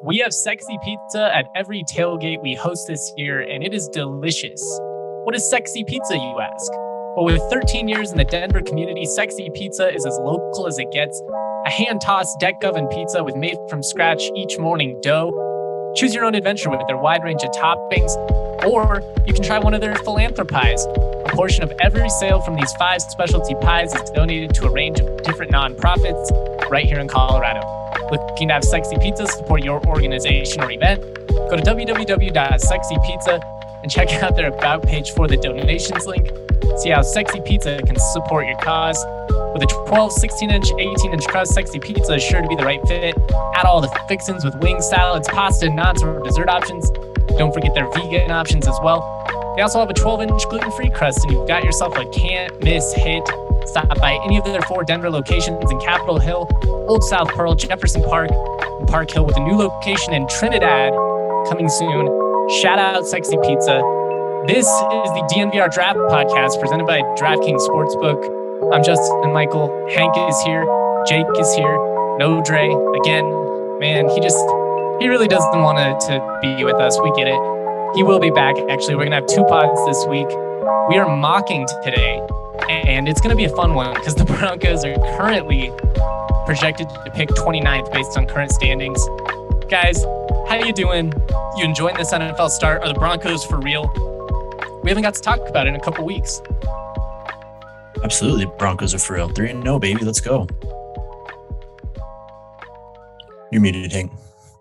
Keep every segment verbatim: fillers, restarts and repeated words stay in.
We have sexy pizza at every tailgate we host this year, and it is delicious. What is sexy pizza, you ask? Well, with thirteen years in the Denver community, sexy pizza is as local as it gets. A hand-tossed deck oven pizza with made from scratch each morning dough. Choose your own adventure with their wide range of toppings, or you can try one of their philanthropies. A portion of every sale from these five specialty pies is donated to a range of different nonprofits right here in Colorado. Looking to have sexy pizza support your organization or event? Go to w w w dot sexy pizza and check out their About page for the donations link. See how Sexy Pizza can support your cause. With a twelve, sixteen-inch, eighteen-inch crust, Sexy Pizza is sure to be the right fit. Add all the fixins with wings, salads, pasta, nuts, or dessert options. Don't forget their vegan options as well. They also have a twelve-inch gluten-free crust, and you've got yourself a can't-miss hit. Stop by any of their four Denver locations in Capitol Hill, Old South Pearl, Jefferson Park, and Park Hill, with a new location in Trinidad coming soon. Shout out Sexy Pizza. This is the D N V R Draft Podcast presented by DraftKings Sportsbook. I'm Justin Michael. Hank is here. Jake is here. No Dre. Again, man, he just, he really doesn't want to, to be with us. We get it. He will be back, actually. We're going to have two pods this week. We are mocking today, and it's going to be a fun one because the Broncos are currently projected to pick twenty-ninth based on current standings. Guys, how you doing? You enjoying this N F L start? Are the Broncos for real? We haven't got to talk about it in a couple weeks. Absolutely. Broncos are for real. three and oh, baby. Let's go. You're muted, Hank.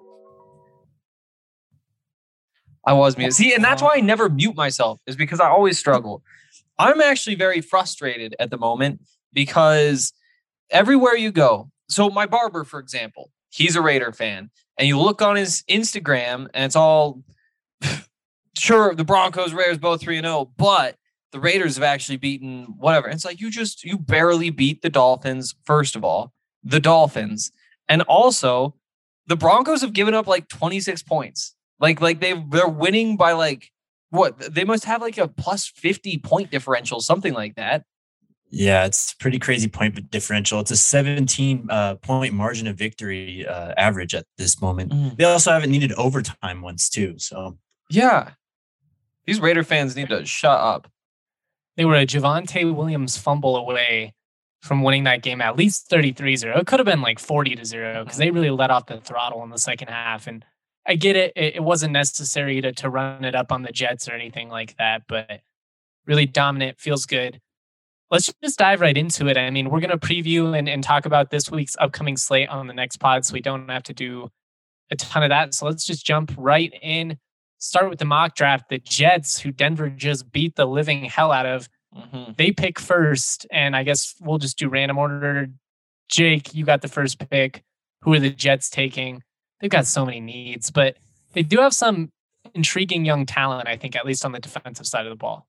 I was muted. See, and that's why I never mute myself, is because I always struggle. I'm actually very frustrated at the moment because everywhere you go, so my barber, for example, he's a Raider fan, and you look on his Instagram and it's all, sure, the Broncos, Raiders, both three and oh, but the Raiders have actually beaten whatever. And it's like, you just, you barely beat the Dolphins, first of all, the Dolphins. And also, the Broncos have given up like twenty-six points. Like, like they they're winning by like, what? They must have like a plus fifty point differential, something like that. Yeah, it's pretty crazy point differential. It's a seventeen uh, point margin of victory uh, average at this moment. Mm. They also haven't needed overtime once too. So yeah, these Raider fans need to shut up. They were a Javonte Williams fumble away from winning that game at least thirty-three zero. It could have been like forty to zero because they really let off the throttle in the second half. And I get it. It wasn't necessary to, to run it up on the Jets or anything like that, but really dominant, feels good. Let's just dive right into it. I mean, we're going to preview and, and talk about this week's upcoming slate on the next pod, so we don't have to do a ton of that. So let's just jump right in. Start with the mock draft. The Jets, who Denver just beat the living hell out of, mm-hmm. they pick first. And I guess we'll just do random order. Jake, you got the first pick. Who are the Jets taking? They've got so many needs, but they do have some intriguing young talent, I think, at least on the defensive side of the ball.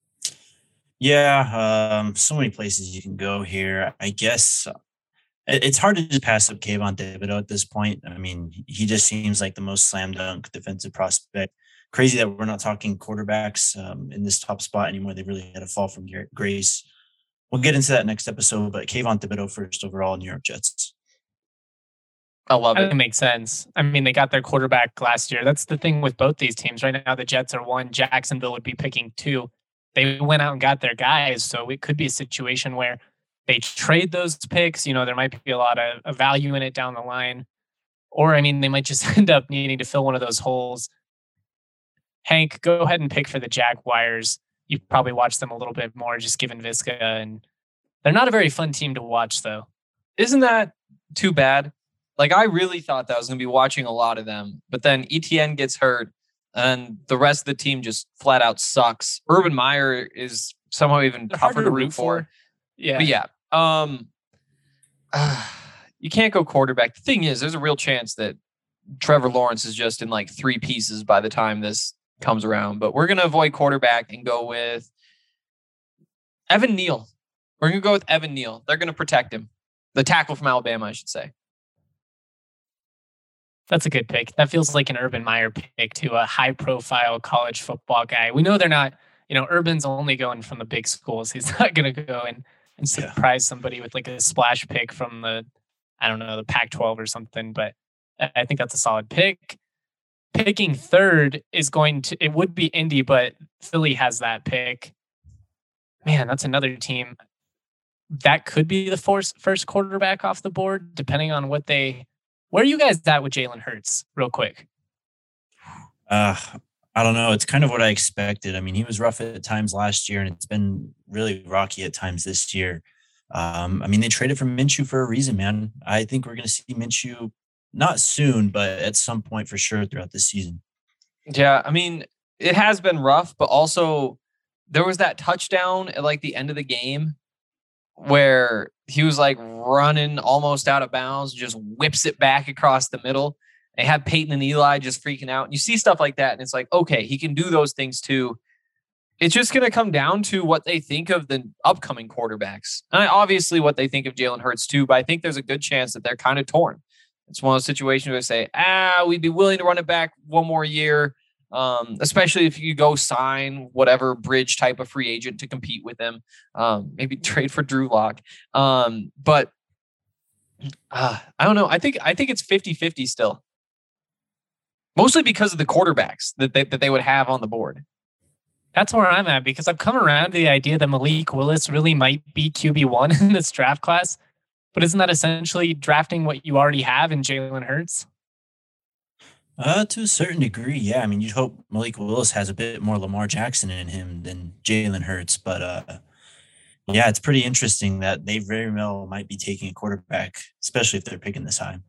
Yeah, um, so many places you can go here. I guess it's hard to just pass up Kayvon Thibodeaux at this point. I mean, he just seems like the most slam dunk defensive prospect. Crazy that we're not talking quarterbacks um, in this top spot anymore. They really had a fall from grace. We'll get into that next episode, but Kayvon Thibodeaux first overall, New York Jets. I love it. It makes sense. I mean, they got their quarterback last year. That's the thing with both these teams. Right now, the Jets are one. Jacksonville would be picking two. They went out and got their guys, so it could be a situation where they trade those picks. You know, there might be a lot of, of value in it down the line. Or, I mean, they might just end up needing to fill one of those holes. Hank, go ahead and pick for the Jaguars. You've probably watched them a little bit more, just given Visca. And they're not a very fun team to watch, though. Isn't that too bad? Like, I really thought that I was going to be watching a lot of them. But then E T N gets hurt. And the rest of the team just flat out sucks. Urban Meyer is somehow even They're tougher to to root for. for. Yeah. But yeah, um, uh, you can't go quarterback. The thing is, there's a real chance that Trevor Lawrence is just in like three pieces by the time this comes around. But we're going to avoid quarterback and go with Evan Neal. We're going to go with Evan Neal. They're going to protect him. The tackle from Alabama, I should say. That's a good pick. That feels like an Urban Meyer pick to a high-profile college football guy. We know they're not, you know, Urban's only going from the big schools. He's not going to go and, and surprise yeah. somebody with like a splash pick from the, I don't know, the Pac twelve or something. But I I think that's a solid pick. Picking third is going to, it would be Indy, but Philly has that pick. Man, that's another team that could be the first first quarterback off the board, depending on what they. Where are you guys at with Jalen Hurts, real quick? Uh, I don't know. It's kind of what I expected. I mean, he was rough at times last year, and it's been really rocky at times this year. Um, I mean, they traded for Minshew for a reason, man. I think we're going to see Minshew not soon, but at some point for sure throughout this season. Yeah, I mean, it has been rough, but also there was that touchdown at like the end of the game where he was like running almost out of bounds, just whips it back across the middle. They have Peyton and Eli just freaking out. And you see stuff like that, and it's like, okay, he can do those things too. It's just going to come down to what they think of the upcoming quarterbacks. And obviously what they think of Jalen Hurts too, but I think there's a good chance that they're kind of torn. It's one of those situations where they say, ah, we'd be willing to run it back one more year, um, especially if you go sign whatever bridge type of free agent to compete with them. Um, maybe trade for Drew Lock. Um, but uh, I don't know. I think I think it's fifty-fifty still. Mostly because of the quarterbacks that they, that they would have on the board. That's where I'm at, because I've come around to the idea that Malik Willis really might be Q B one in this draft class. But isn't that essentially drafting what you already have in Jalen Hurts? Uh, to a certain degree, yeah. I mean, you'd hope Malik Willis has a bit more Lamar Jackson in him than Jalen Hurts. But uh, yeah, it's pretty interesting that they very well might be taking a quarterback, especially if they're picking this high.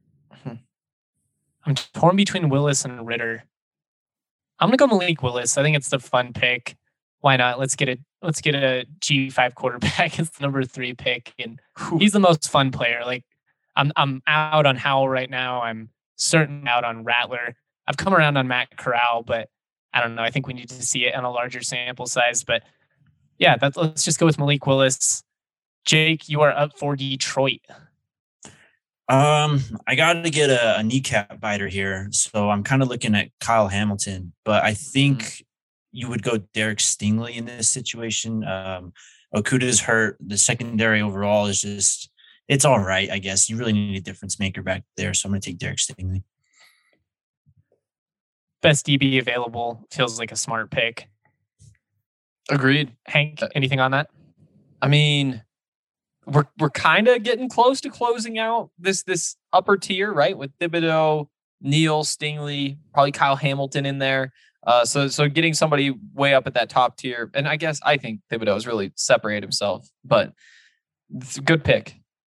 I'm torn between Willis and Ritter. I'm gonna go Malik Willis. I think it's the fun pick. Why not? Let's get a let's get a G five quarterback as the number three pick, and he's the most fun player. Like I'm I'm out on Howell right now. I'm certain out on Rattler. I've come around on Matt Corral, but I don't know. I think we need to see it on a larger sample size. But yeah, that's, let's just go with Malik Willis. Jake, you are up for Detroit. Um, I got to get a, a kneecap biter here, so I'm kind of looking at Kyle Hamilton, but I think mm-hmm. you would go Derek Stingley in this situation. Um, Okuda's hurt. The secondary overall is just, it's all right, I guess. You really need a difference maker back there, so I'm going to take Derek Stingley. Best D B available. Feels like a smart pick. Agreed. Hank, anything on that? I mean, we're we're kind of getting close to closing out this this upper tier, right? With Thibodeau, Neal, Stingley, probably Kyle Hamilton in there. Uh, so so getting somebody way up at that top tier, and I guess I think Thibodeau has really separated himself, but it's a good pick.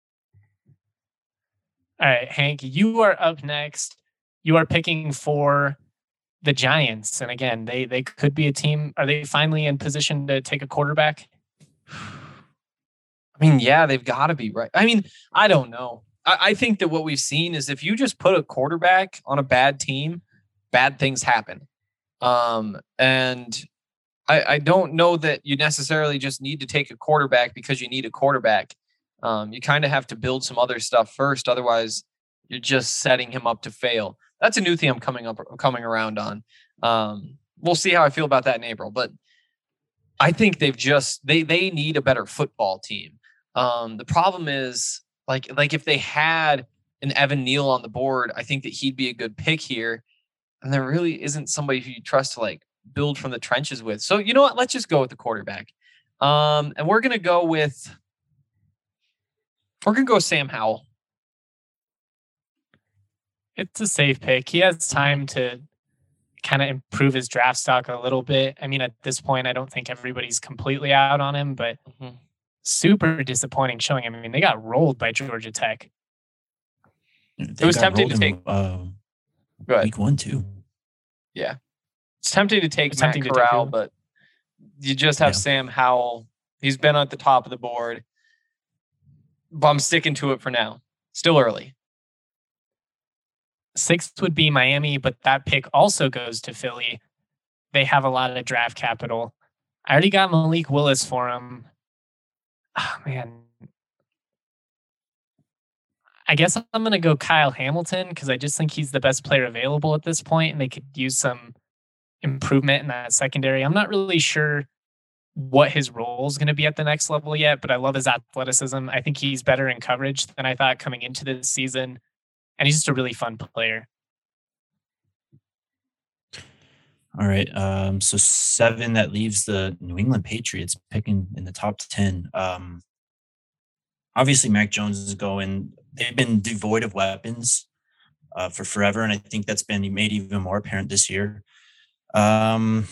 All right, Hank, you are up next. You are picking for the Giants, and again, they they could be a team. Are they finally in position to take a quarterback? I mean, yeah, they've got to be, right? I mean, I don't know. I, I think that what we've seen is if you just put a quarterback on a bad team, bad things happen. Um, and I, I don't know that you necessarily just need to take a quarterback because you need a quarterback. Um, you kind of have to build some other stuff first. Otherwise, you're just setting him up to fail. That's a new thing I'm coming up, coming around on. Um, we'll see how I feel about that in April, but I think they've just, they, they need a better football team. Um, the problem is like, like if they had an Evan Neal on the board, I think that he'd be a good pick here. And there really isn't somebody who you trust to like build from the trenches with. So you know what? Let's just go with the quarterback. Um, and we're going to go with, we're going to go Sam Howell. It's a safe pick. He has time to kind of improve his draft stock a little bit. I mean, at this point, I don't think everybody's completely out on him, but mm-hmm. super disappointing showing. I mean, they got rolled by Georgia Tech. They it was tempting to take in, uh, week one, too. Yeah. It's tempting to take it's Matt tempting Corral, to take but you just have yeah. Sam Howell. He's been at the top of the board. But I'm sticking to it for now. Still early. Sixth would be Miami, but that pick also goes to Philly. They have a lot of draft capital. I already got Malik Willis for him. Oh, man. I guess I'm going to go Kyle Hamilton because I just think he's the best player available at this point, and they could use some improvement in that secondary. I'm not really sure what his role is going to be at the next level yet, but I love his athleticism. I think he's better in coverage than I thought coming into this season. and he's just a really fun player. All right. Um, so seven, that leaves the New England Patriots picking in the top ten. Um, obviously, Mac Jones is going. They've been devoid of weapons uh, for forever, and I think that's been made even more apparent this year. Um,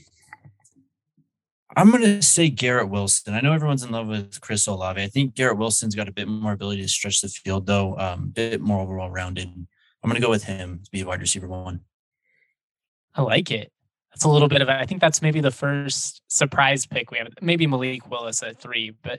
I'm going to say Garrett Wilson. I know everyone's in love with Chris Olave. I think Garrett Wilson's got a bit more ability to stretch the field, though, um, a bit more overall rounded. I'm going to go with him to be wide receiver one. I like it. That's a little bit of it. I think that's maybe the first surprise pick we have. Maybe Malik Willis at three, but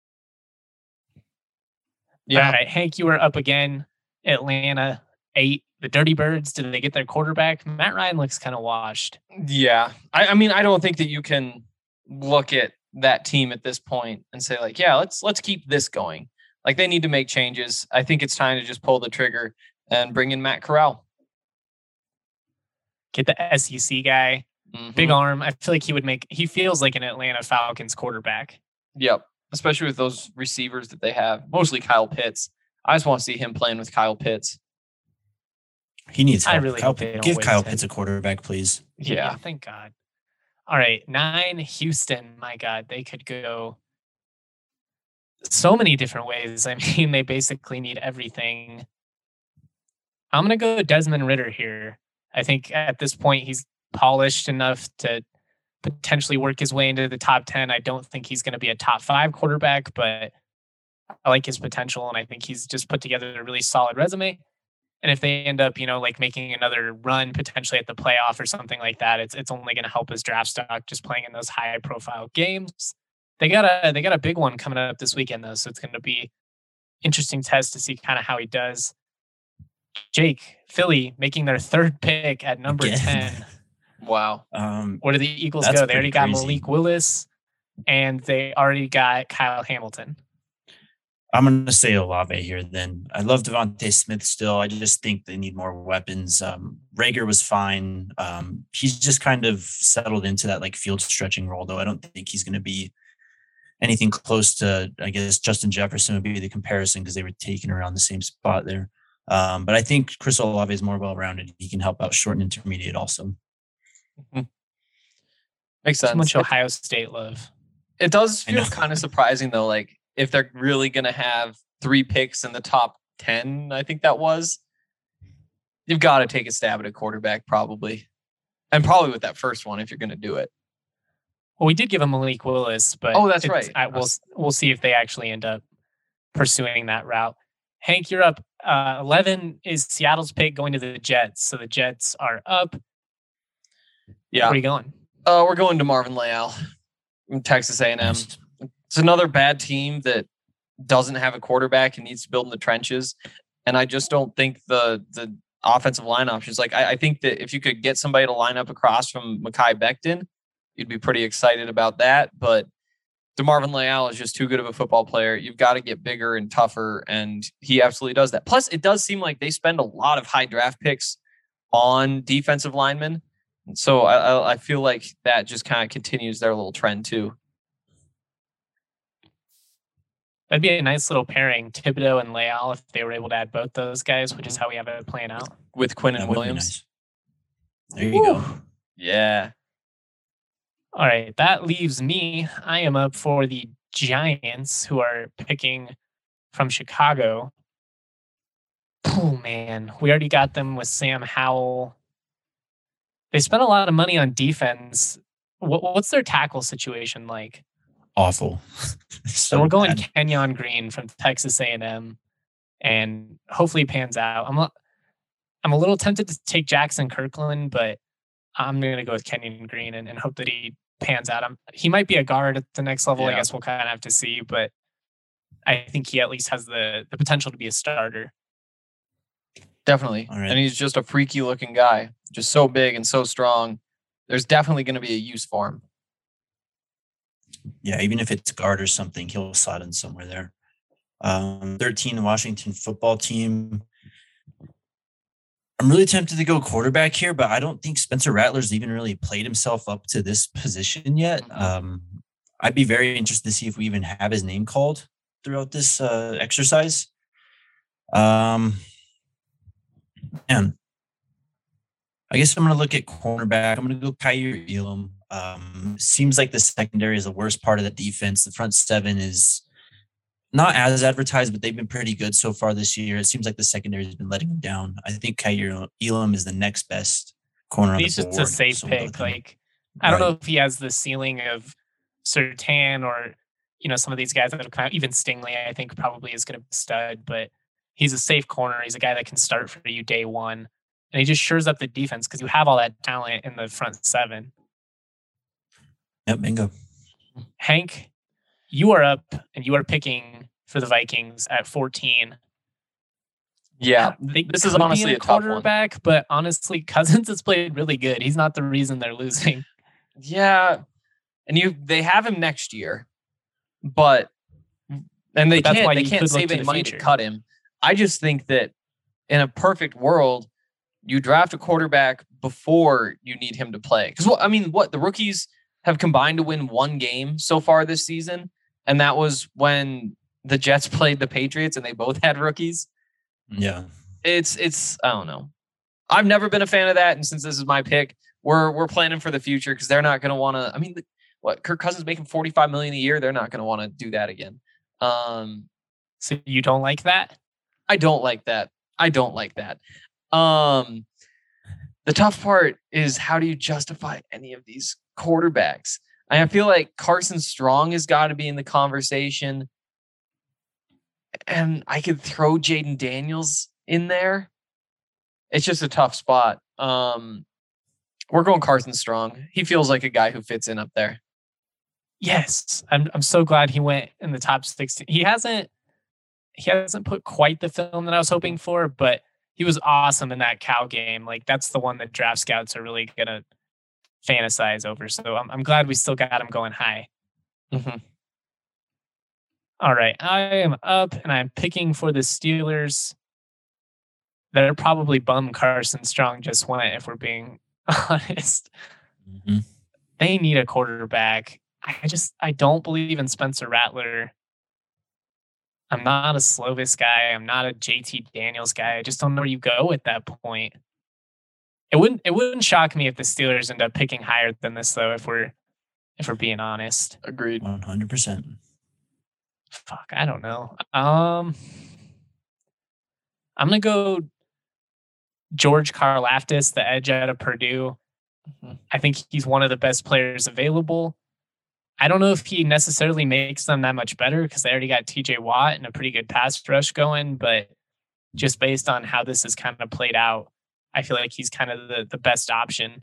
yeah. All right, Hank, you were up again. Atlanta eight. The Dirty Birds. Did they get their quarterback? Matt Ryan looks kind of washed. Yeah, I, I mean, I don't think that you can look at that team at this point and say like, yeah, let's let's keep this going. Like they need to make changes. I think it's time to just pull the trigger and bring in Matt Corral. Get the S E C guy, mm-hmm. Big arm. I feel like he would make. He feels like an Atlanta Falcons quarterback. Yep, especially with those receivers that they have, mostly Kyle Pitts. I just want to see him playing with Kyle Pitts. He needs help. I really Kyle, hope they don't give Kyle him. Pitts a quarterback, please. Yeah. yeah, thank God. All right, nine, Houston. My God, they could go so many different ways. I mean, they basically need everything. I'm going to go Desmond Ridder here. I think at this point, he's polished enough to potentially work his way into the top ten. I don't think he's going to be a top five quarterback, but I like his potential, and I think he's just put together a really solid resume. And if they end up, you know, like making another run potentially at the playoff or something like that, it's it's only going to help his draft stock just playing in those high profile games. They got a they got a big one coming up this weekend though, so it's going to be interesting test to see kind of how he does. Jake, Philly making their third pick at number Again. ten. Wow. Um, Where do the Eagles go? They already got crazy. Malik Willis, and they already got Kyle Hamilton. I'm going to say Olave here then. I love Devontae Smith still. I just think they need more weapons. Um, Rager was fine. Um, he's just kind of settled into that like field stretching role, though. I don't think he's going to be anything close to, I guess, Justin Jefferson would be the comparison because they were taken around the same spot there. Um, but I think Chris Olave is more well-rounded. He can help out short and intermediate also. Mm-hmm. Makes sense. Too much Ohio State love. It does feel kind of surprising, though, like, if they're really going to have three picks in the top ten, I think that was, you've got to take a stab at a quarterback probably. And probably with that first one, if you're going to do it. Well, we did give him Malik Willis, but oh, that's right. I, we'll, we'll see if they actually end up pursuing that route. Hank, you're up. Uh, eleven is Seattle's pick going to the Jets. So the Jets are up. Yeah. Where are you going? Uh, we're going to Marvin Leal from Texas A and M. Nice. It's another bad team that doesn't have a quarterback and needs to build in the trenches. And I just don't think the the offensive line options. Like, I, I think that if you could get somebody to line up across from Mekhi Becton, you'd be pretty excited about that. But DeMarvin Leal is just too good of a football player. You've got to get bigger and tougher, and he absolutely does that. Plus, it does seem like they spend a lot of high draft picks on defensive linemen. So I, I feel like that just kind of continues their little trend too. That'd be a nice little pairing, Thibodeau and Leal, if they were able to add both those guys, which is how we have it playing out. With Quinn and Williams. Nice. There you Woo. go. Yeah. All right. That leaves me. I am up for the Giants, who are picking from Chicago. Oh, man. We already got them with Sam Howell. They spent a lot of money on defense. What, what's their tackle situation like? Awful. so, so we're going bad. Kenyon Green from Texas A and M, and hopefully pans out. I'm a, I'm a little tempted to take Jackson Kirkland, but I'm going to go with Kenyon Green and, and hope that he pans out. I'm, he might be a guard at the next level. Yeah. I guess we'll kind of have to see, but I think he at least has the, the potential to be a starter. Definitely. Right. And he's just a freaky looking guy, just so big and so strong. There's definitely going to be a use for him. Yeah, even if it's guard or something, he'll slot in somewhere there. Um, thirteen, Washington football team. I'm really tempted to go quarterback here, but I don't think Spencer Rattler's even really played himself up to this position yet. Um, I'd be very interested to see if we even have his name called throughout this uh, exercise. Um, Man, I guess I'm going to look at cornerback. I'm going to go Kaiir Elam. Um, seems like the secondary is the worst part of the defense. The front seven is not as advertised, but they've been pretty good so far this year. It seems like the secondary has been letting them down. I think Kaiir Elam is the next best corner on He's the just board. a safe so we'll pick. with him. Like, I don't Right. know if he has the ceiling of Surtain or, you know, some of these guys that have come out. Even Stingley, I think, probably is going to be a stud, but he's a safe corner. He's a guy that can start for you day one. And he just shores up the defense because you have all that talent in the front seven. Yep, bingo. Hank, you are up and you are picking for the Vikings at fourteen. Yeah, They this is could be honestly in a tough one. quarterback, but honestly, Cousins has played really good. He's not the reason they're losing. Yeah, and you they have him next year, but and they But that's can't why they you can't could look save to any the money future. to cut him. I just think that in a perfect world, you draft a quarterback before you need him to play. Because what I mean, what the rookies have combined to win one game so far this season, and that was when the Jets played the Patriots, and they both had rookies. Yeah. It's it's I don't know. I've never been a fan of that, and since this is my pick, we're we're planning for the future because they're not going to want to. I mean, what Kirk Cousins making forty-five million dollars a year, they're not going to want to do that again. Um, So you don't like that? I don't like that. I don't like that. Um, the tough part is how do you justify any of these quarterbacks? I feel like Carson Strong has got to be in the conversation, and I could throw Jaden Daniels in there. It's just a tough spot. Um, we're going Carson Strong. He feels like a guy who fits in up there. Yes. I'm I'm so glad he went in the top sixteen. He hasn't he hasn't put quite the film that I was hoping for, but he was awesome in that Cal game. Like that's the one that draft scouts are really gonna fantasize over. So I'm I'm glad we still got him going high. Mm-hmm. All right. I am up and I'm picking for the Steelers. They're probably bummed Carson Strong just went, if we're being honest. Mm-hmm. They need a quarterback. I just I don't believe in Spencer Rattler. I'm not a Slovis guy. I'm not a J T Daniels guy. I just don't know where you go at that point. It wouldn't it wouldn't shock me if the Steelers end up picking higher than this though, if we're if we're being honest. Agreed. one hundred percent. Fuck, I don't know. Um I'm gonna go George Karlaftis, the edge out of Purdue. Mhm. I think he's one of the best players available. I don't know if he necessarily makes them that much better because they already got T J Watt and a pretty good pass rush going, but just based on how this has kind of played out, I feel like he's kind of the, the best option.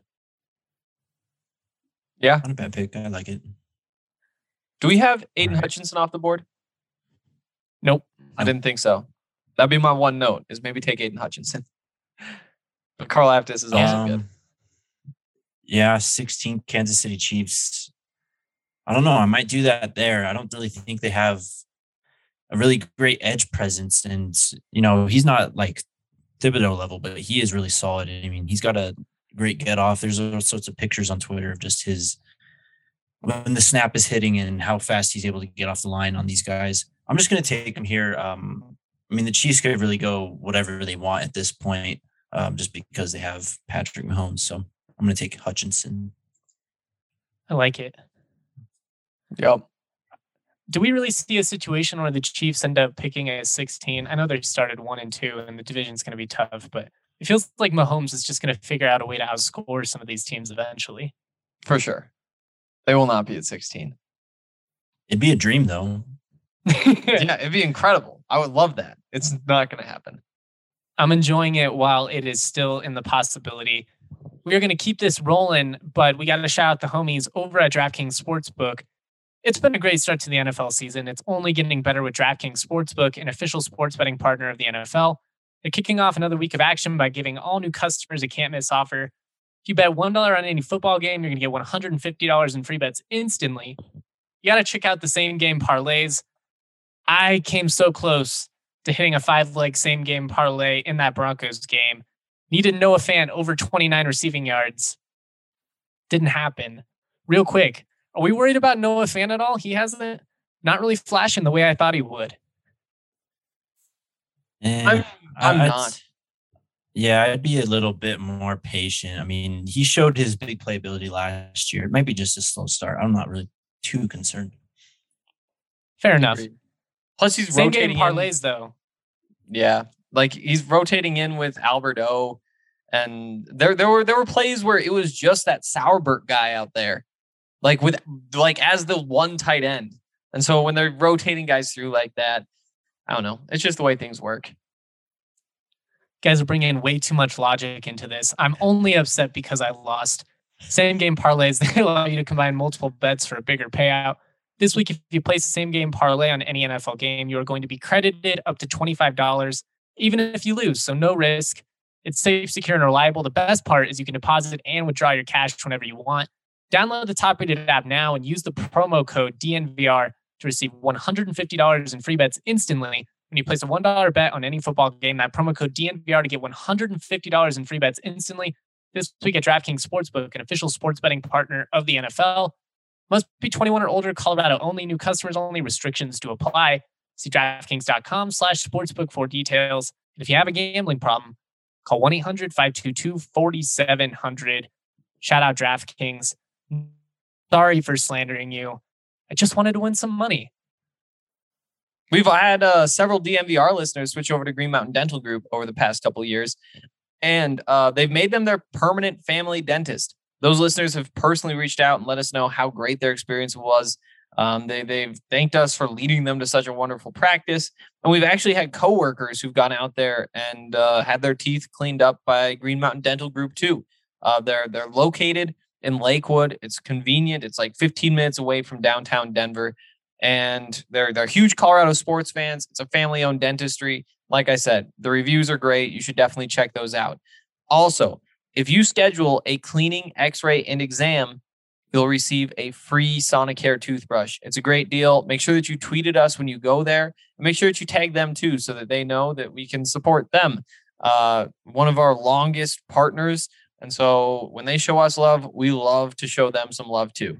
Yeah. Not a bad pick. I like it. Do we have Aiden All right. Hutchinson off the board? Nope. I didn't think so. That'd be my one note is maybe take Aiden Hutchinson. But Carl Aftis is also good. Um, Yeah, sixteen Kansas City Chiefs. I don't know. I might do that there. I don't really think they have a really great edge presence. And, you know, he's not like Thibodeau level, but he is really solid. I mean, he's got a great get off. There's all sorts of pictures on Twitter of just his when the snap is hitting and how fast he's able to get off the line on these guys. I'm just going to take him here. Um, I mean, the Chiefs could really go whatever they want at this point, um, just because they have Patrick Mahomes. So I'm going to take Hutchinson. I like it. Yep. Do we really see a situation where the Chiefs end up picking a sixteen? I know they started one and two and the division's going to be tough, but it feels like Mahomes is just going to figure out a way to outscore some of these teams eventually. For sure. They will not be at sixteen. It'd be a dream, though. Yeah, it'd be incredible. I would love that. It's not going to happen. I'm enjoying it while it is still in the possibility. We are going to keep this rolling, but we got to shout out the homies over at DraftKings Sportsbook. It's been a great start to the N F L season. It's only getting better with DraftKings Sportsbook, an official sports betting partner of the N F L. They're kicking off another week of action by giving all new customers a can't-miss offer. If you bet one dollar on any football game, you're going to get one hundred fifty dollars in free bets instantly. You got to check out the same-game parlays. I came so close to hitting a five-leg same-game parlay in that Broncos game. Needed Noah Fant over twenty-nine receiving yards. Didn't happen. Real quick, are we worried about Noah Fant at all? He hasn't not really flashing the way I thought he would. Eh, I'm, I'm I- I'd- not. Yeah, I'd be a little bit more patient. I mean, he showed his big playability last year. It might be just a slow start. I'm not really too concerned. Fair enough. Agreed. Plus, he's Same game rotating parlays in. though. Yeah, like he's rotating in with Albert O, and there there were there were plays where it was just that Sauerbert guy out there, like with like as the one tight end. And so when they're rotating guys through like that, I don't know. It's just the way things work. Guys are bringing way too much logic into this. I'm only upset because I lost. Same game parlays, they allow you to combine multiple bets for a bigger payout. This week, if you place the same game parlay on any N F L game, you are going to be credited up to twenty-five dollars, even if you lose. So no risk. It's safe, secure, and reliable. The best part is you can deposit and withdraw your cash whenever you want. Download the top-rated app now and use the promo code D N V R to receive one hundred fifty dollars in free bets instantly. When you place a one dollar bet on any football game, that promo code D N V R to get one hundred fifty dollars in free bets instantly. This week at DraftKings Sportsbook, an official sports betting partner of the N F L. Must be twenty-one or older, Colorado only, new customers only, restrictions to apply. See DraftKings.com slash sportsbook for details. And if you have a gambling problem, call one eight hundred five two two four seven zero zero. Shout out DraftKings. Sorry for slandering you. I just wanted to win some money. We've had uh, several D N V R listeners switch over to Green Mountain Dental Group over the past couple of years, and uh, they've made them their permanent family dentist. Those listeners have personally reached out and let us know how great their experience was. Um, they, they've thanked us for leading them to such a wonderful practice. And we've actually had coworkers who've gone out there and uh, had their teeth cleaned up by Green Mountain Dental Group too. Uh, they're, they're located in Lakewood. It's convenient. It's like fifteen minutes away from downtown Denver. And they're they're huge Colorado sports fans. It's a family-owned dentistry. Like I said, the reviews are great. You should definitely check those out. Also, if you schedule a cleaning, x-ray, and exam, you'll receive a free Sonicare toothbrush. It's a great deal. Make sure that you tweet at us when you go there. And make sure that you tag them too so that they know that we can support them. Uh, one of our longest partners. And so when they show us love, we love to show them some love too.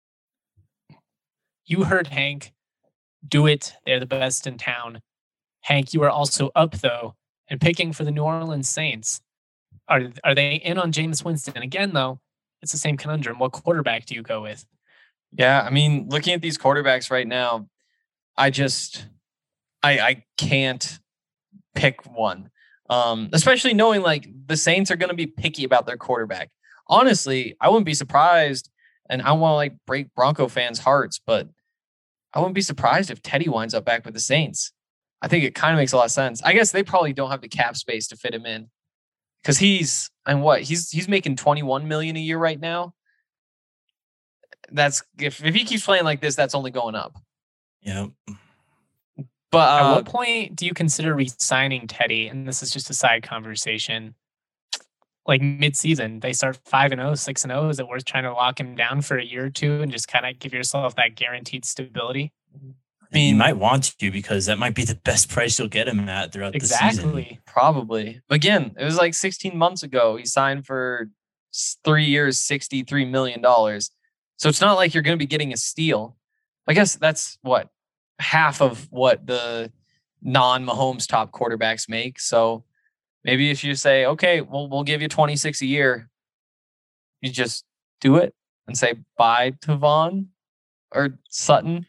You heard Hank. Do it. They're the best in town. Hank, you are also up, though, and picking for the New Orleans Saints. Are, are they in on Jameis Winston? Again, though, it's the same conundrum. What quarterback do you go with? Yeah, I mean, looking at these quarterbacks right now, I just, I, I can't pick one. Um, especially knowing like the Saints are going to be picky about their quarterback. Honestly, I wouldn't be surprised, and I want to like break Bronco fans' hearts, but I wouldn't be surprised if Teddy winds up back with the Saints. I think it kind of makes a lot of sense. I guess they probably don't have the cap space to fit him in because he's and what he's he's making twenty-one million a year right now. That's if if he keeps playing like this, that's only going up. Yeah. But uh, at what point do you consider re-signing Teddy? And this is just a side conversation. Like mid-season, they start five and oh, six and oh. Is it worth trying to lock him down for a year or two and just kind of give yourself that guaranteed stability? I mean, you might want to because that might be the best price you'll get him at throughout exactly. the season. Probably. Again, it was like sixteen months ago. He signed for three years, sixty-three million dollars. So it's not like you're going to be getting a steal. I guess that's what half of what the non-Mahomes top quarterbacks make. So maybe if you say, okay, well, we'll give you twenty-six a year, you just do it and say bye to Vaughn or Sutton.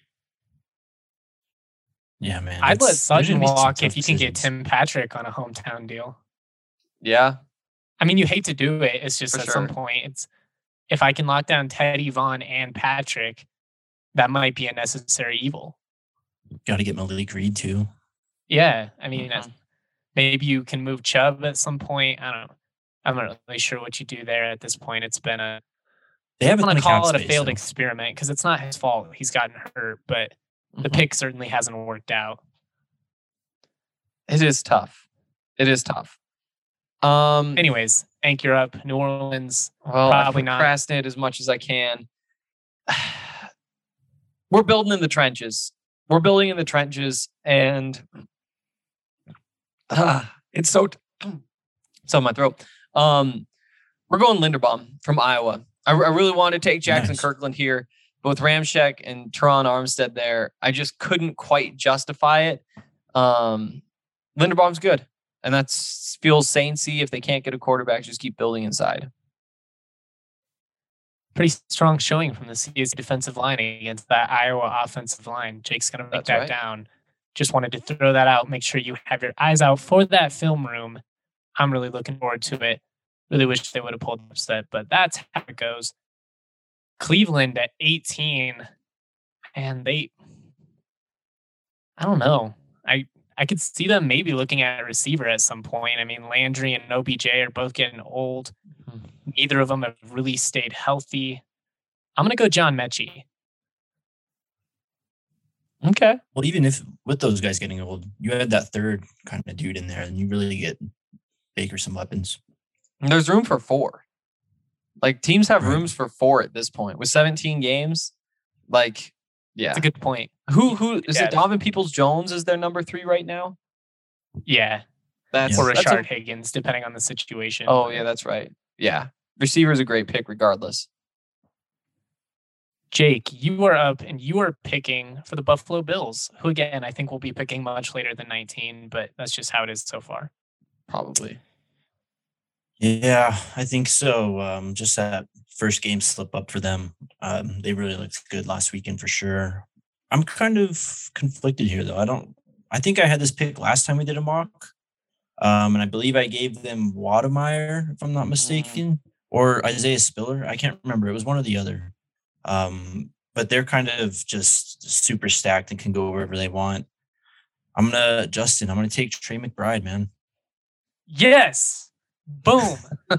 Yeah, man. I'd let Sutton walk if you can decisions. get Tim Patrick on a hometown deal. Yeah. I mean, you hate to do it. It's just For at sure. some point, it's if I can lock down Teddy, Vaughn, and Patrick, that might be a necessary evil. Got to get Malik Reed too. Yeah, I mean, Mhm. maybe you can move Chubb at some point. I don't know. I'm not really sure what you do there at this point. It's been a They I haven't want to call it a space, failed though. experiment because it's not his fault. He's gotten hurt, but the Mhm. pick certainly hasn't worked out. It is tough. It is tough. Um, Anyways, anchor up. New Orleans. well, probably I not. procrastinate as much as I can. We're building in the trenches. We're building in the trenches, and ah, it's so t- so in my throat. Um, we're going Linderbaum from Iowa. I, I really wanted to take Jackson Nice. Kirkland here, but with Ramczyk and Teron Armstead there, I just couldn't quite justify it. Um, Linderbaum's good. And that feels Saintsy. If they can't get a quarterback, just keep building inside. Pretty strong showing from the C S U defensive line against that Iowa offensive line. Jake's going to make That's that right. down. Just wanted to throw that out. Make sure you have your eyes out for that film room. I'm really looking forward to it. Really wish they would have pulled upset, but that's how it goes. Cleveland at eighteen, and they, I don't know. I I could see them maybe looking at a receiver at some point. I mean, Landry and O B J are both getting old. Mm-hmm. Neither of them have really stayed healthy. I'm going to go John Mechie. Okay. Well, even if with those guys getting old, you had that third kind of dude in there, and you really get Baker some weapons. And there's room for four. Like, teams have Right. rooms for four at this point. With seventeen games, like, yeah. That's a good point. Who who is Yeah. it? Donovan Peoples-Jones is their number three right now? Yeah. That's Or that's Rashard a- Higgins, depending on the situation. Oh, yeah, that's right. Yeah. Receiver is a great pick regardless. Jake, you are up and you are picking for the Buffalo Bills, who again, I think will be picking much later than nineteen, but that's just how it is so far. Probably. Yeah, I think so. Um, just that first game slip up for them. Um, they really looked good last weekend for sure. I'm kind of conflicted here though. I don't. I think I had this pick last time we did a mock, um, and I believe I gave them Wademeyer, if I'm not mistaken, or Isaiah Spiller. I can't remember. It was one or the other. Um, but they're kind of just super stacked and can go wherever they want. I'm gonna Justin. I'm gonna take Trey McBride, man. Yes. Boom.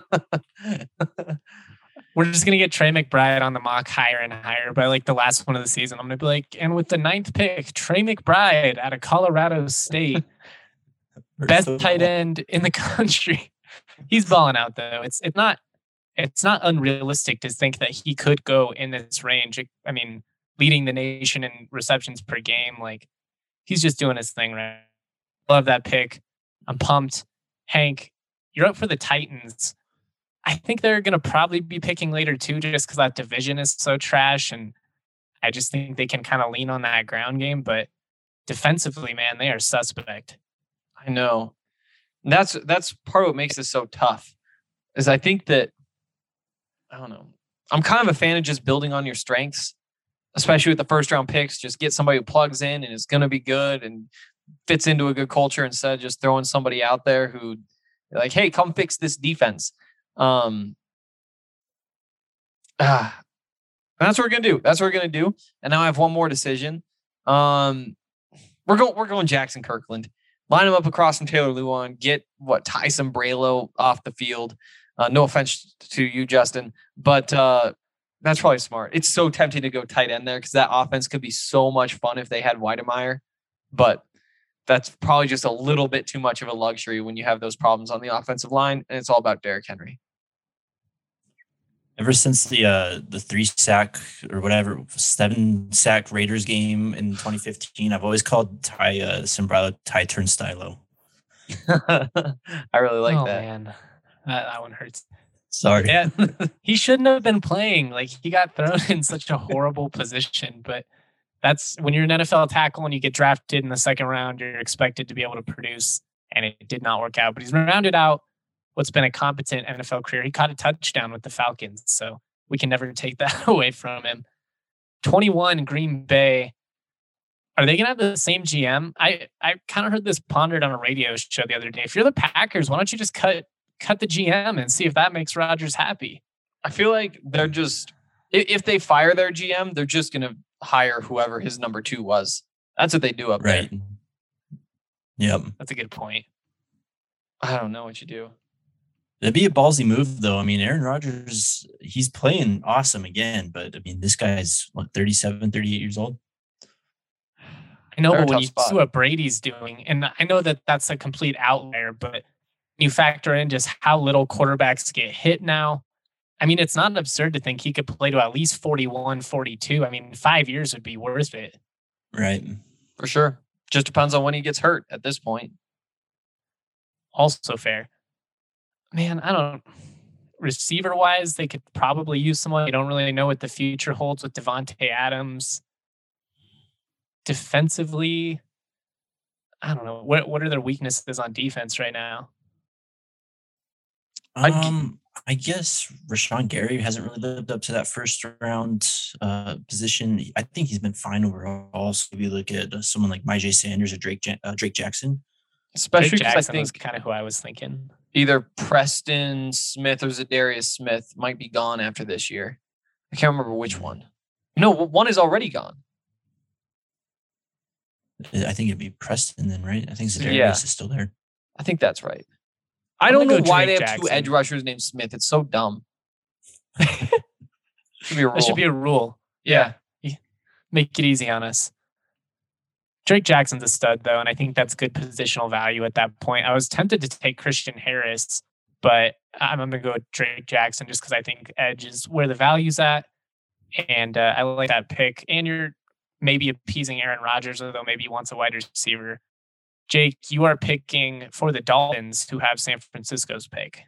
We're just going to get Trey McBride on the mock higher and higher by like the last one of the season. I'm going to be like, and with the ninth pick, Trey McBride out of Colorado State, best tight end in the country. He's balling out though. It's it's not it's not unrealistic to think that he could go in this range. I mean, leading the nation in receptions per game, like he's just doing his thing right. Love that pick. I'm pumped. Hank, you're up for the Titans. I think they're going to probably be picking later too, just because that division is so trash. And I just think they can kind of lean on that ground game. But defensively, man, they are suspect. I know. That's that's part of what makes this so tough. Is I think that I don't know. I'm kind of a fan of just building on your strengths, especially with the first round picks. Just get somebody who plugs in and is going to be good and fits into a good culture instead of just throwing somebody out there who like, hey, come fix this defense. Um, ah, that's what we're gonna do. That's what we're gonna do. And now I have one more decision. Um, we're going. We're going Jackson Kirkland. Line him up across from Taylor Lewan. Get what Tyson Braylo off the field. Uh, no offense to you, Justin, but uh, that's probably smart. It's so tempting to go tight end there because that offense could be so much fun if they had Weidemeyer, but that's probably just a little bit too much of a luxury when you have those problems on the offensive line, and it's all about Derrick Henry. Ever since the uh, the three sack or whatever seven sack Raiders game in twenty fifteen, I've always called Ty uh, Sombrero Ty Turnstilo. I really like oh, that. Man, that that one hurts. Sorry. Yeah, he shouldn't have been playing. Like he got thrown in such a horrible position, but that's when you're an N F L tackle and you get drafted in the second round, you're expected to be able to produce, and it did not work out. But he's rounded out what's been a competent N F L career. He caught a touchdown with the Falcons, so we can never take that away from him. twenty-one, Green Bay. Are they going to have the same G M? I, I kind of heard this pondered on a radio show the other day. If you're the Packers, why don't you just cut cut the G M and see if that makes Rodgers happy? I feel like they're just, if they fire their G M, they're just going to hire whoever his number two was. That's what they do up Right. there. Yep. That's a good point. I don't know what you do. It'd be a ballsy move, though. I mean, Aaron Rodgers, he's playing awesome again, but I mean, this guy's what, thirty-seven, thirty-eight years old? I know, They're a but when tough you spot. see what Brady's doing, and I know that that's a complete outlier, but you factor in just how little quarterbacks get hit now. I mean, it's not absurd to think he could play to at least forty-one, forty-two. I mean, five years would be worth it. Right. For sure. Just depends on when he gets hurt at this point. Also fair. Man, I don't. Receiver wise, they could probably use someone. You don't really know what the future holds with Devontae Adams. Defensively, I don't know. What what are their weaknesses on defense right now? Um, I guess Rashawn Gary hasn't really lived up to that first round uh, position. I think he's been fine overall. So if you look at uh, someone like Myjai Sanders or Drake Ja- uh, Drake Jackson, Especially Drake because I Jackson was think kind of who I was thinking. either Preston Smith or Zadarius Smith might be gone after this year. I can't remember which one. No, one is already gone. I think it'd be Preston then, right? I think Zadarius Yeah. is still there. I think that's right. I I'm don't know gonna go why Drake they have two Jackson. edge rushers named Smith. It's so dumb. Should be a rule. That should be a rule. yeah. Make it easy on us. Drake Jackson's a stud, though, and I think that's good positional value at that point. I was tempted to take Christian Harris, but I'm going to go with Drake Jackson just because I think edge is where the value's at. And uh, I like that pick. And you're maybe appeasing Aaron Rodgers, although maybe he wants a wide receiver. Jake, you are picking for the Dolphins, who have San Francisco's pick.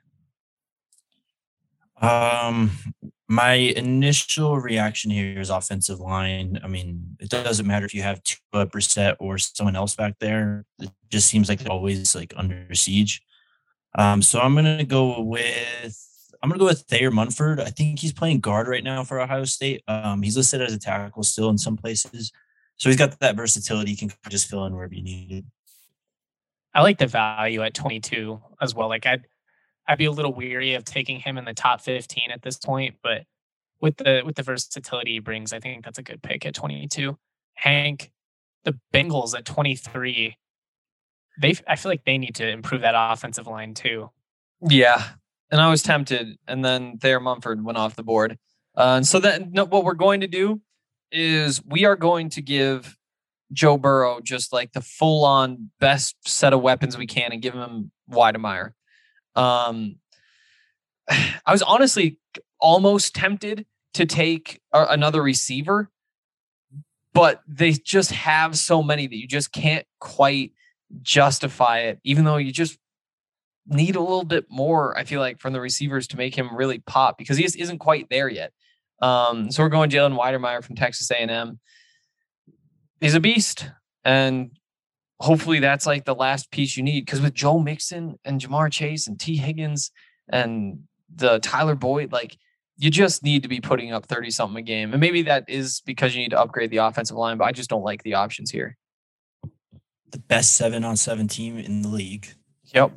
Um, my initial reaction here is offensive line. I mean, it doesn't matter if you have Tua, Brissett, or someone else back there. It just seems like they're always like under siege. Um, so I'm gonna go with I'm gonna go with Thayer Munford. I think he's playing guard right now for Ohio State. Um, he's listed as a tackle still in some places, so he's got that versatility. He can just fill in wherever you need it. I like the value at twenty-two as well. Like I'd I'd be a little weary of taking him in the top fifteen at this point, but with the with the versatility he brings, I think that's a good pick at twenty-two. Hank, the Bengals at twenty-three. They I feel like they need to improve that offensive line too. Yeah. And I was tempted, and then Thayer Mumford went off the board. Uh, and so then no, what we're going to do is we are going to give Joe Burrow just like the full on best set of weapons we can and give him Weidemeyer. Um, I was honestly almost tempted to take a, another receiver, but they just have so many that you just can't quite justify it, even though you just need a little bit more, I feel like, from the receivers to make him really pop because he just isn't quite there yet. Um, so we're going Jalen Weidemeyer from Texas A and M. He's a beast, and hopefully that's like the last piece you need, because with Joe Mixon and Jamar Chase and T Higgins and the Tyler Boyd, like you just need to be putting up thirty something a game. And maybe that is because you need to upgrade the offensive line, but I just don't like the options here. The best seven on seven team in the league. Yep.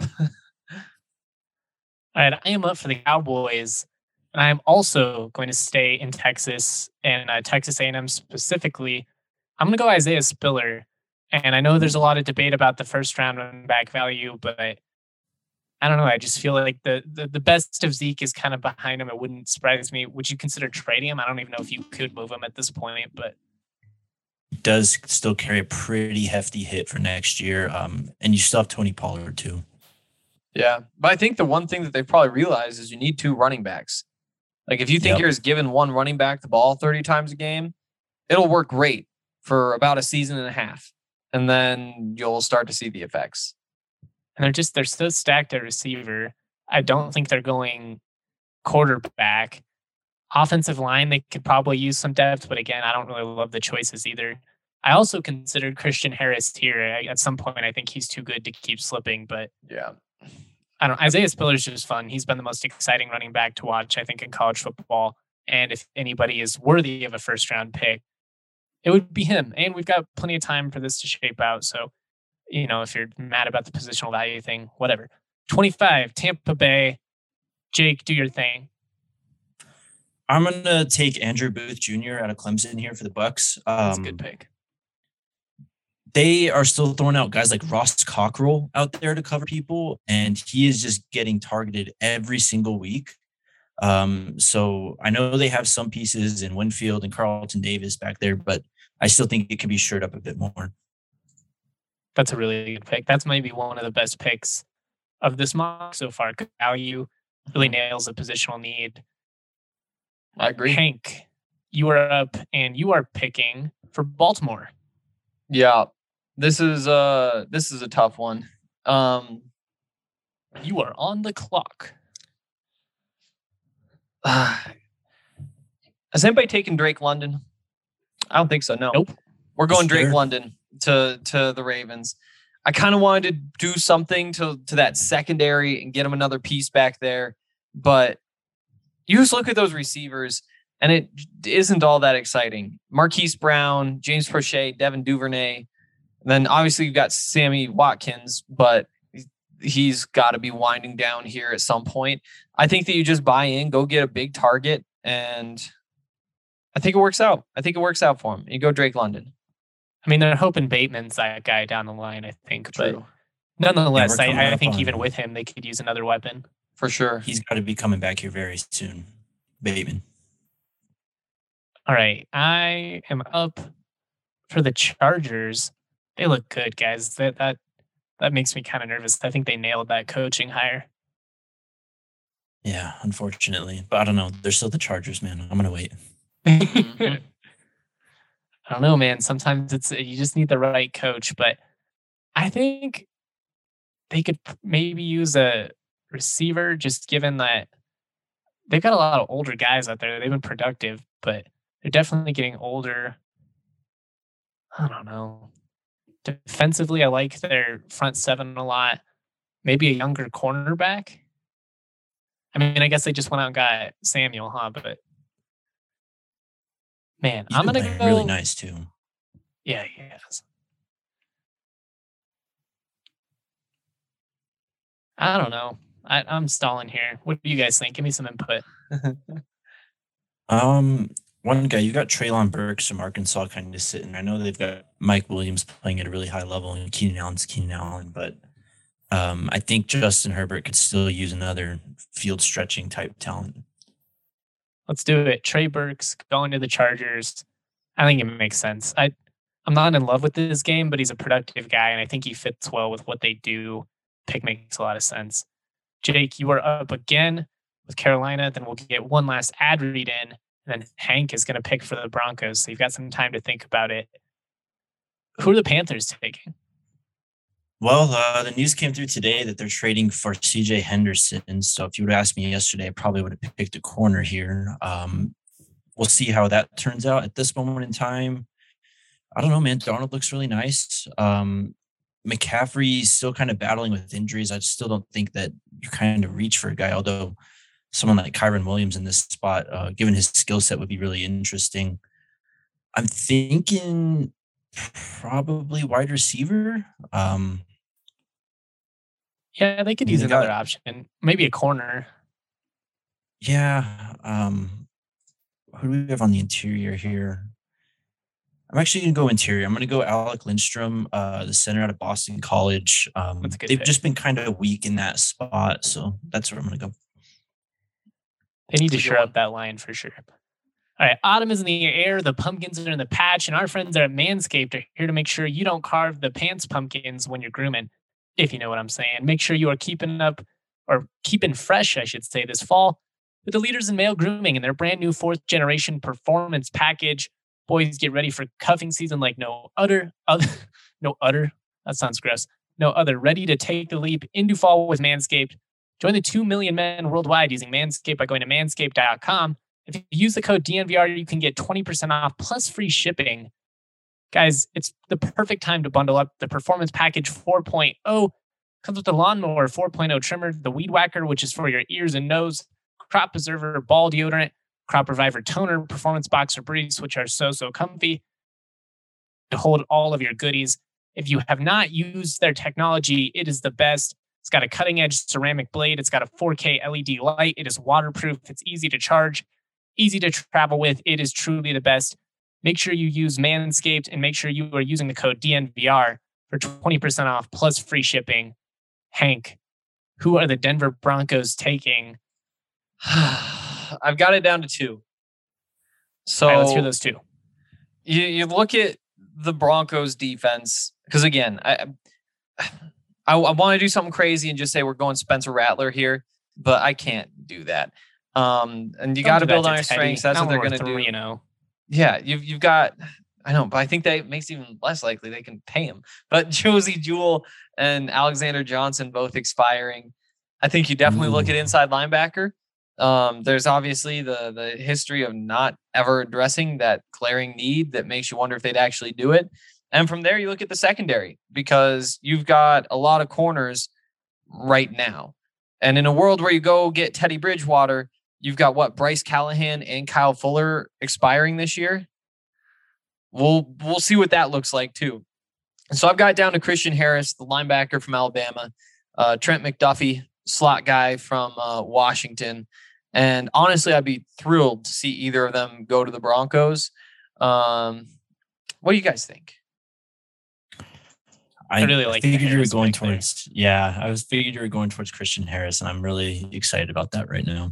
All right, I am up for the Cowboys, and I am also going to stay in Texas and uh, Texas A and M specifically. I'm going to go Isaiah Spiller. And I know there's a lot of debate about the first round running back value, but I don't know. I just feel like the, the the best of Zeke is kind of behind him. It wouldn't surprise me. Would you consider trading him? I don't even know if you could move him at this point, but does still carry a pretty hefty hit for next year. Um, and you still have Tony Pollard too. Yeah. But I think the one thing that they've probably realized is you need two running backs. Like if you think Yep. you're just giving one running back the ball thirty times a game, it'll work great for about a season and a half. And then you'll start to see the effects. and they're just they're so stacked at receiver. I don't think they're going quarterback. Offensive line, they could probably use some depth, but again, I don't really love the choices either. I also considered Christian Harris here. I, at some point, I think he's too good to keep slipping, but Yeah. I don't. Isaiah Spiller's just fun. He's been the most exciting running back to watch, I think, in college football. And if anybody is worthy of a first round pick, it would be him. And we've got plenty of time for this to shape out. So, you know, if you're mad about the positional value thing, whatever. twenty-five, Tampa Bay. Jake, do your thing. I'm gonna take Andrew Booth Junior out of Clemson here for the Bucks. Um, That's a good pick. They are still throwing out guys like Ross Cockrell out there to cover people, and he is just getting targeted every single week. Um, so I know they have some pieces in Winfield and Carlton Davis back there, but I still think it can be shored up a bit more. That's a really good pick. That's maybe one of the best picks of this mock so far. Good value, really nails the positional need. I agree. Hank, you are up and you are picking for Baltimore. Yeah. This is uh this is a tough one. Um You are on the clock. uh, has anybody taken Drake London? I don't think so. No. Nope. We're going Drake Sure. London to to the Ravens. I kind of wanted to do something to, to that secondary and get him another piece back there. But you just look at those receivers, and it isn't all that exciting. Marquise Brown, James Prochet, Devin Duvernay. And then obviously you've got Sammy Watkins, but he's got to be winding down here at some point. I think that you just buy in, go get a big target, and I think it works out. I think it works out for him. You go Drake London. I mean, they're hoping Bateman's that guy down the line, I think. True. But nonetheless, Yeah, we're coming I, I up think on- even with him, they could use another weapon. For sure. He's got to be coming back here very soon. Bateman. All right. I am up for the Chargers. They look good, guys. That that that makes me kind of nervous. I think they nailed that coaching hire. Yeah, unfortunately. But I don't know. They're still the Chargers, man. I'm going to wait. Mhm. I don't know, man. Sometimes it's you just need the right coach, but I think they could p- maybe use a receiver, just given that they've got a lot of older guys out there. They've been productive, but they're definitely getting older. I don't know. Defensively, I like their front seven a lot. Maybe a younger cornerback. I mean, I guess they just went out and got Samuel, huh? But man, He's I'm been gonna playing go. really nice, too. Yeah, he has. I don't know. I, I'm stalling here. What do you guys think? Give me some input. Um, One guy, you got Traylon Burks from Arkansas kind of sitting. I know they've got Mike Williams playing at a really high level, and Keenan Allen's Keenan Allen, but um, I think Justin Herbert could still use another field stretching type talent. Let's do it. Trey Burks going to the Chargers. I think it makes sense. I, I'm not in love with this game, but he's a productive guy, and I think he fits well with what they do. Pick makes a lot of sense. Jake, you are up again with Carolina. Then we'll get one last ad read in, and then Hank is going to pick for the Broncos. So you've got some time to think about it. Who are the Panthers taking? Well, uh, the news came through today that they're trading for C J Henderson. So if you would have asked me yesterday, I probably would have picked a corner here. Um, we'll see how that turns out at this moment in time. I don't know, man. Darnold looks really nice. Um, McCaffrey's still kind of battling with injuries. I still don't think that you kind of reach for a guy, although someone like Kyron Williams in this spot, uh, given his skill set, would be really interesting. I'm thinking probably wide receiver. Um, Yeah, they could I mean, use they another got- option. Maybe a corner. yeah. Um, who do we have on the interior here? I'm actually going to go interior. I'm going to go Alec Lindstrom, uh, the center out of Boston College. Um, That's a good they've pick. just been kind of weak in that spot, so that's where I'm going to go. They need to That's a good shore one. up that line for sure. All right, autumn is in the air. The pumpkins are in the patch, and our friends at Manscaped are here to make sure you don't carve the pants pumpkins when you're grooming, if you know what I'm saying. Make sure you are keeping up or keeping fresh, I should say, this fall with the leaders in male grooming and their brand new fourth generation performance package. Boys, get ready for cuffing season like no other, other no other. That sounds gross. No other. Ready to take the leap into fall with Manscaped. Join the two million men worldwide using Manscaped by going to manscaped dot com. If you use the code D N V R, you can get twenty percent off plus free shipping. Guys, it's the perfect time to bundle up. The Performance Package four point oh comes with the Lawnmower four point oh trimmer, the Weed Whacker, which is for your ears and nose, Crop Preserver ball deodorant, Crop Reviver toner, Performance Boxer briefs, which are so, so comfy to hold all of your goodies. If you have not used their technology, it is the best. It's got a cutting edge ceramic blade. It's got a four K L E D light. It is waterproof. It's easy to charge, easy to travel with. It is truly the best. Make sure you use Manscaped and make sure you are using the code D N V R for twenty percent off plus free shipping. Hank, who are the Denver Broncos taking? I've got it down to two. So All right, let's hear those two. you, you look at the Broncos defense, because again, I I, I want to do something crazy and just say we're going Spencer Rattler here, but I can't do that. Um, and you got to build on your strengths. That's what they're going to do. You know, Yeah, you've you've got. I know, but I think that makes it even less likely they can pay him. But Josie Jewell and Alexander Johnson both expiring. I think you definitely look at Ooh. inside linebacker. Um, there's obviously the the history of not ever addressing that glaring need that makes you wonder if they'd actually do it. And from there, you look at the secondary because you've got a lot of corners right now. And in a world where you go get Teddy Bridgewater, you've got what, Bryce Callahan and Kyle Fuller expiring this year. We'll we'll see what that looks like too. And so I've got down to Christian Harris, the linebacker from Alabama, uh, Trent McDuffie, slot guy from uh, Washington. And honestly, I'd be thrilled to see either of them go to the Broncos. Um, what do you guys think? I, I really like. figured you were going towards. There. Yeah, I was figured you were going towards Christian Harris, and I'm really excited about that right now.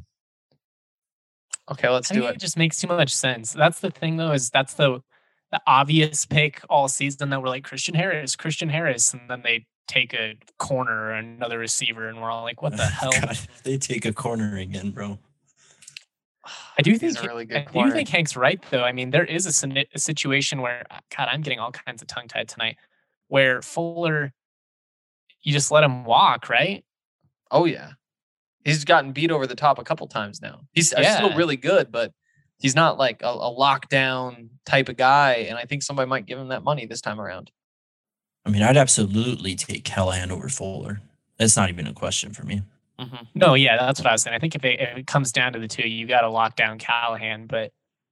Okay, let's I do think it. It just makes too much sense. That's the thing, though, is that's the the obvious pick all season that we're like Christian Harris, Christian Harris, and then they take a corner or another receiver, and we're all like, what the hell? God, they take a corner again, bro. I do think He's a really good I do corner. think Hank's right, though. I mean, there is a, sini- a situation where, God, I'm getting all kinds of tongue tied tonight, where Fuller, you just let him walk, right? Oh yeah, he's gotten beat over the top a couple times now. He's Yeah. still really good, but he's not like a, a lockdown type of guy. And I think somebody might give him that money this time around. I mean, I'd absolutely take Callahan over Fuller. That's not even a question for me. Mm-hmm. No, yeah, that's what I was saying. I think if it, if it comes down to the two, you got to lock down Callahan. But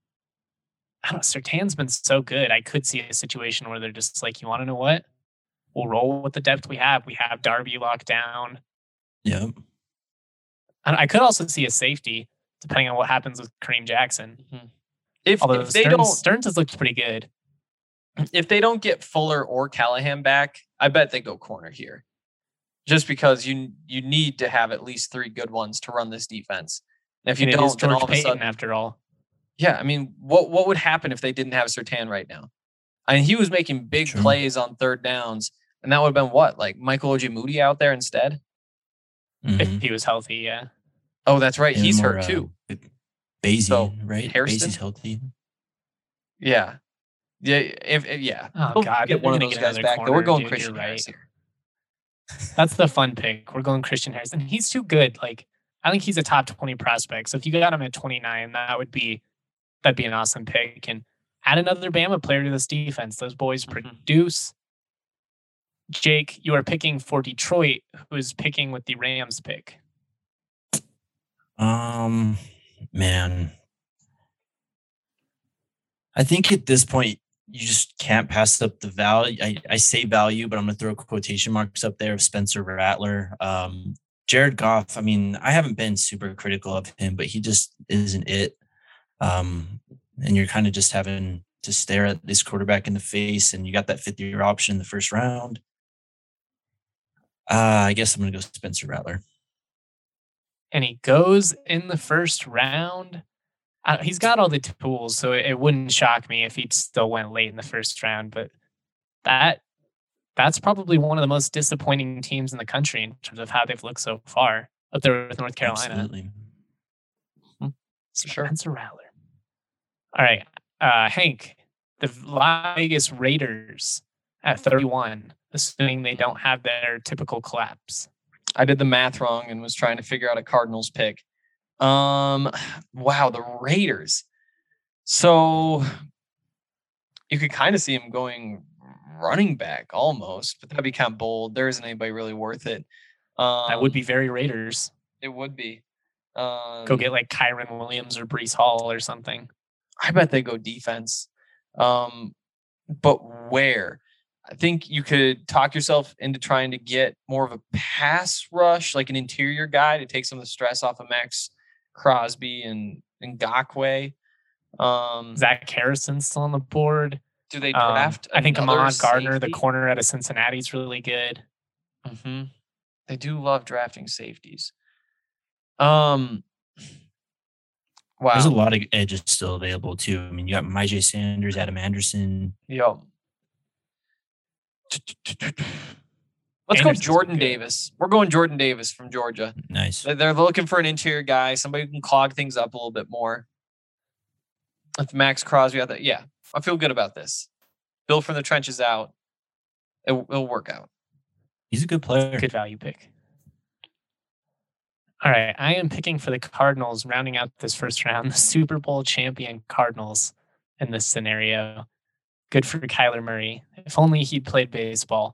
I don't know, Surtain's been so good. I could see a situation where they're just like, you want to know what? We'll roll with the depth we have. We have Darby locked down. Yep. And I could also see a safety, depending on what happens with Kareem Jackson. Mm-hmm. If, Although if they Stearns, don't, Stearns has looked pretty good. if they don't get Fuller or Callahan back, I bet they go corner here. Just because you you need to have at least three good ones to run this defense. And if you And it don't, is then George all of a Payton, sudden, after all. yeah, I mean, what what would happen if they didn't have Surtain right now? I mean, he was making big True. plays on third downs, and that would have been what, like Michael Ojemudia out there instead? Mhm. If he was healthy, yeah. Oh, that's right, And he's more, hurt uh, too. Basie, So, right? Hairston? Basie's healthy. Yeah, yeah, if, if yeah. Oh, They'll God, get they're one of gonna those get guys another back. Though we're corner, going dude, Christian you're Harris right. here. That's the fun pick. We're going Christian Harris. And he's too good. Like, I think he's a top twenty prospect. So if you got him at twenty-nine, that would be that'd be an awesome pick. And add another Bama player to this defense. Those boys Mhm. produce. Jake, you are picking for Detroit, who is picking with the Rams pick. Um, man, I think at this point you just can't pass up the value. I, I say value, but I'm gonna throw quotation marks up there of Spencer Rattler. Um, Jared Goff. I mean, I haven't been super critical of him, but he just isn't it. Um, and you're kind of just having to stare at this quarterback in the face, and you got that fifth year option in the first round. Uh, I guess I'm gonna go Spencer Rattler. And he goes in the first round. Uh, he's got all the tools, so it, it wouldn't shock me if he still went late in the first round. But that that's probably one of the most disappointing teams in the country in terms of how they've looked so far up there with North Carolina. Absolutely. Sure. Spencer Rattler. All right, uh, Hank, the Las Vegas Raiders at thirty-one, assuming they don't have their typical collapse. I did the math wrong and was trying to figure out a Cardinals pick. Um, wow, the Raiders. So you could kind of see him going running back almost, but that'd be kind of bold. There isn't anybody really worth it. Um, That would be very Raiders. It would be. Um, Go get like Kyron Williams or Brees Hall or something. I bet they go defense. Um, but where? I think you could talk yourself into trying to get more of a pass rush, like an interior guy to take some of the stress off of Max Crosby and Ngakoue. Um, Zach Harrison's still on the board. do they Um, draft? I think another Ahmad Gardner, the safety? corner out of Cincinnati, is really good. Mm-hmm. They do love drafting safeties. Um. Wow. There's a lot of edges still available too. I mean, you got Myjai Sanders, Adam Anderson. Yo. Let's go Anderson's Jordan good. Davis. We're going Jordan Davis from Georgia. Nice. They- They're looking for an interior guy, somebody who can clog things up a little bit more. With Max Crosby out there, yeah, I feel good about this. Build from the trenches out. It, it'll work out. He's a good player. Good value pick. All right, I am picking for the Cardinals, rounding out this first round, the Super Bowl champion Cardinals in this scenario. Good for Kyler Murray. If only he'd played baseball.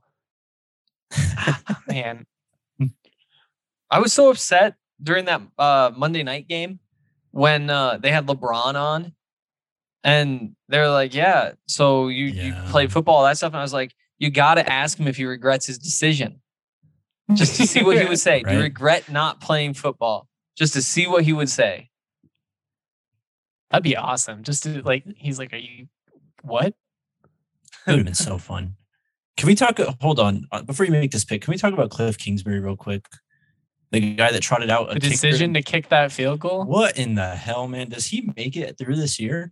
Man. I was so upset during that uh, Monday night game when uh, they had LeBron on. And they're like, yeah, so you, Yeah. you played football, that stuff. And I was like, you got to ask him if he regrets his decision. Just to see what he would say. Right. Do you regret not playing football? Just to see what he would say. That'd be awesome. Just to like, he's like, are you, what? That would have been so fun. Can we talk? Hold on. uh, Before you make this pick, can we talk about Cliff Kingsbury real quick? The guy that trotted out a The kicker. decision to kick that field goal? What in the hell, man? Does he make it through this year?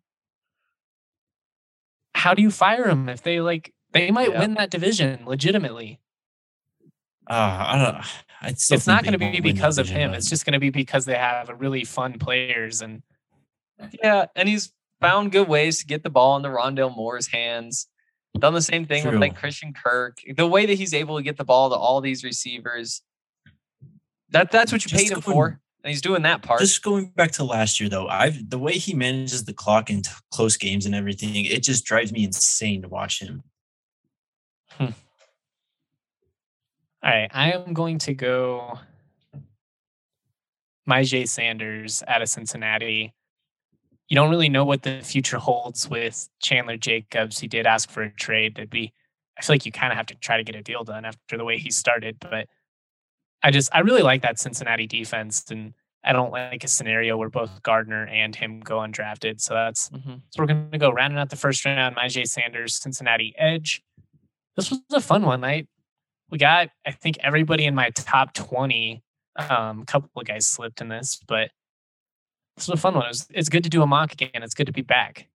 How do you fire him if they like, they might Yeah. win that division legitimately? Uh, I don't. I still It's not think going to they be won't win because that of division, him. but- It's just going to be because they have really fun players. And Yeah, and he's found good ways to get the ball into Rondale Moore's hands. Done the same thing with True. like Christian Kirk. The way that he's able to get the ball to all these receivers. That that's what you Just paid him going- for. And he's doing that part. Just going back to last year, though, I've the way he manages the clock in t- close games and everything, it just drives me insane to watch him. all right, I am going to go Myjai Sanders out of Cincinnati. You don't really know what the future holds with Chandler Jacobs. He did ask for a trade. That'd be, I feel like you kind of have to try to get a deal done after the way he started. But I just, I really like that Cincinnati defense. And I don't like a scenario where both Gardner and him go undrafted. So that's, Mhm. so we're going to go rounding out the first round. Myjai Sanders, Cincinnati edge. This was a fun one night. We got, I think, everybody in my top twenty. Um, a couple of guys slipped in this, but this was a fun one. It was, it's good to do a mock again. It's good to be back.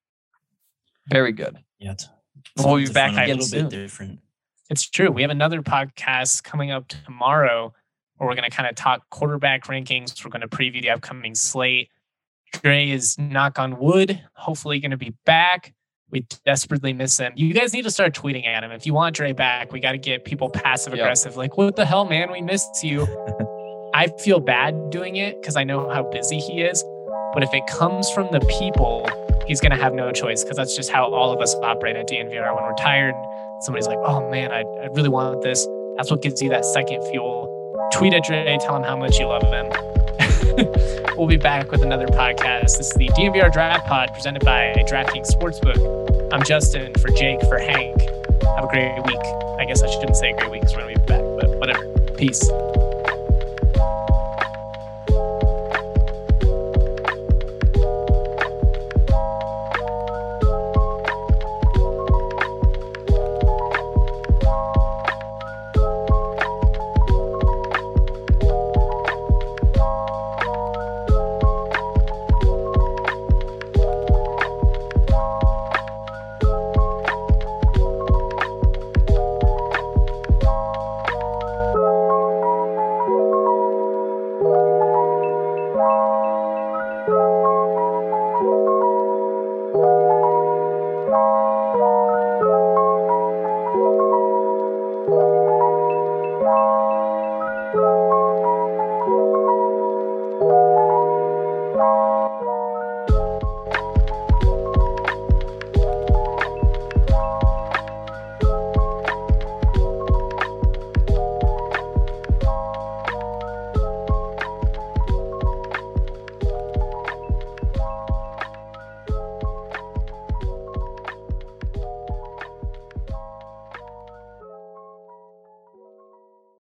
Very good. Yeah, it's, We'll be it's back fun, a again little soon. bit different. It's true. We have another podcast coming up tomorrow where we're going to kind of talk quarterback rankings. We're going to preview the upcoming slate. Dre is, knock on wood, hopefully going to be back. We desperately miss him. You guys need to start tweeting at him. If you want Dre back, we got to get people passive aggressive. Like, what the hell, man? We missed you. I feel bad doing it because I know how busy he is. But if it comes from the people, he's going to have no choice because that's just how all of us operate at D N V R. When we're tired, somebody's like, oh man, I, I really want this. That's what gives you that second fuel. Tweet at Dre, tell him how much you love him. We'll be back with another podcast. This is the D N V R Draft Pod presented by DraftKings Sportsbook. I'm Justin for Jake, for Hank. Have a great week. I guess I shouldn't say great week because we're going to be back, but whatever. Peace. Thank you.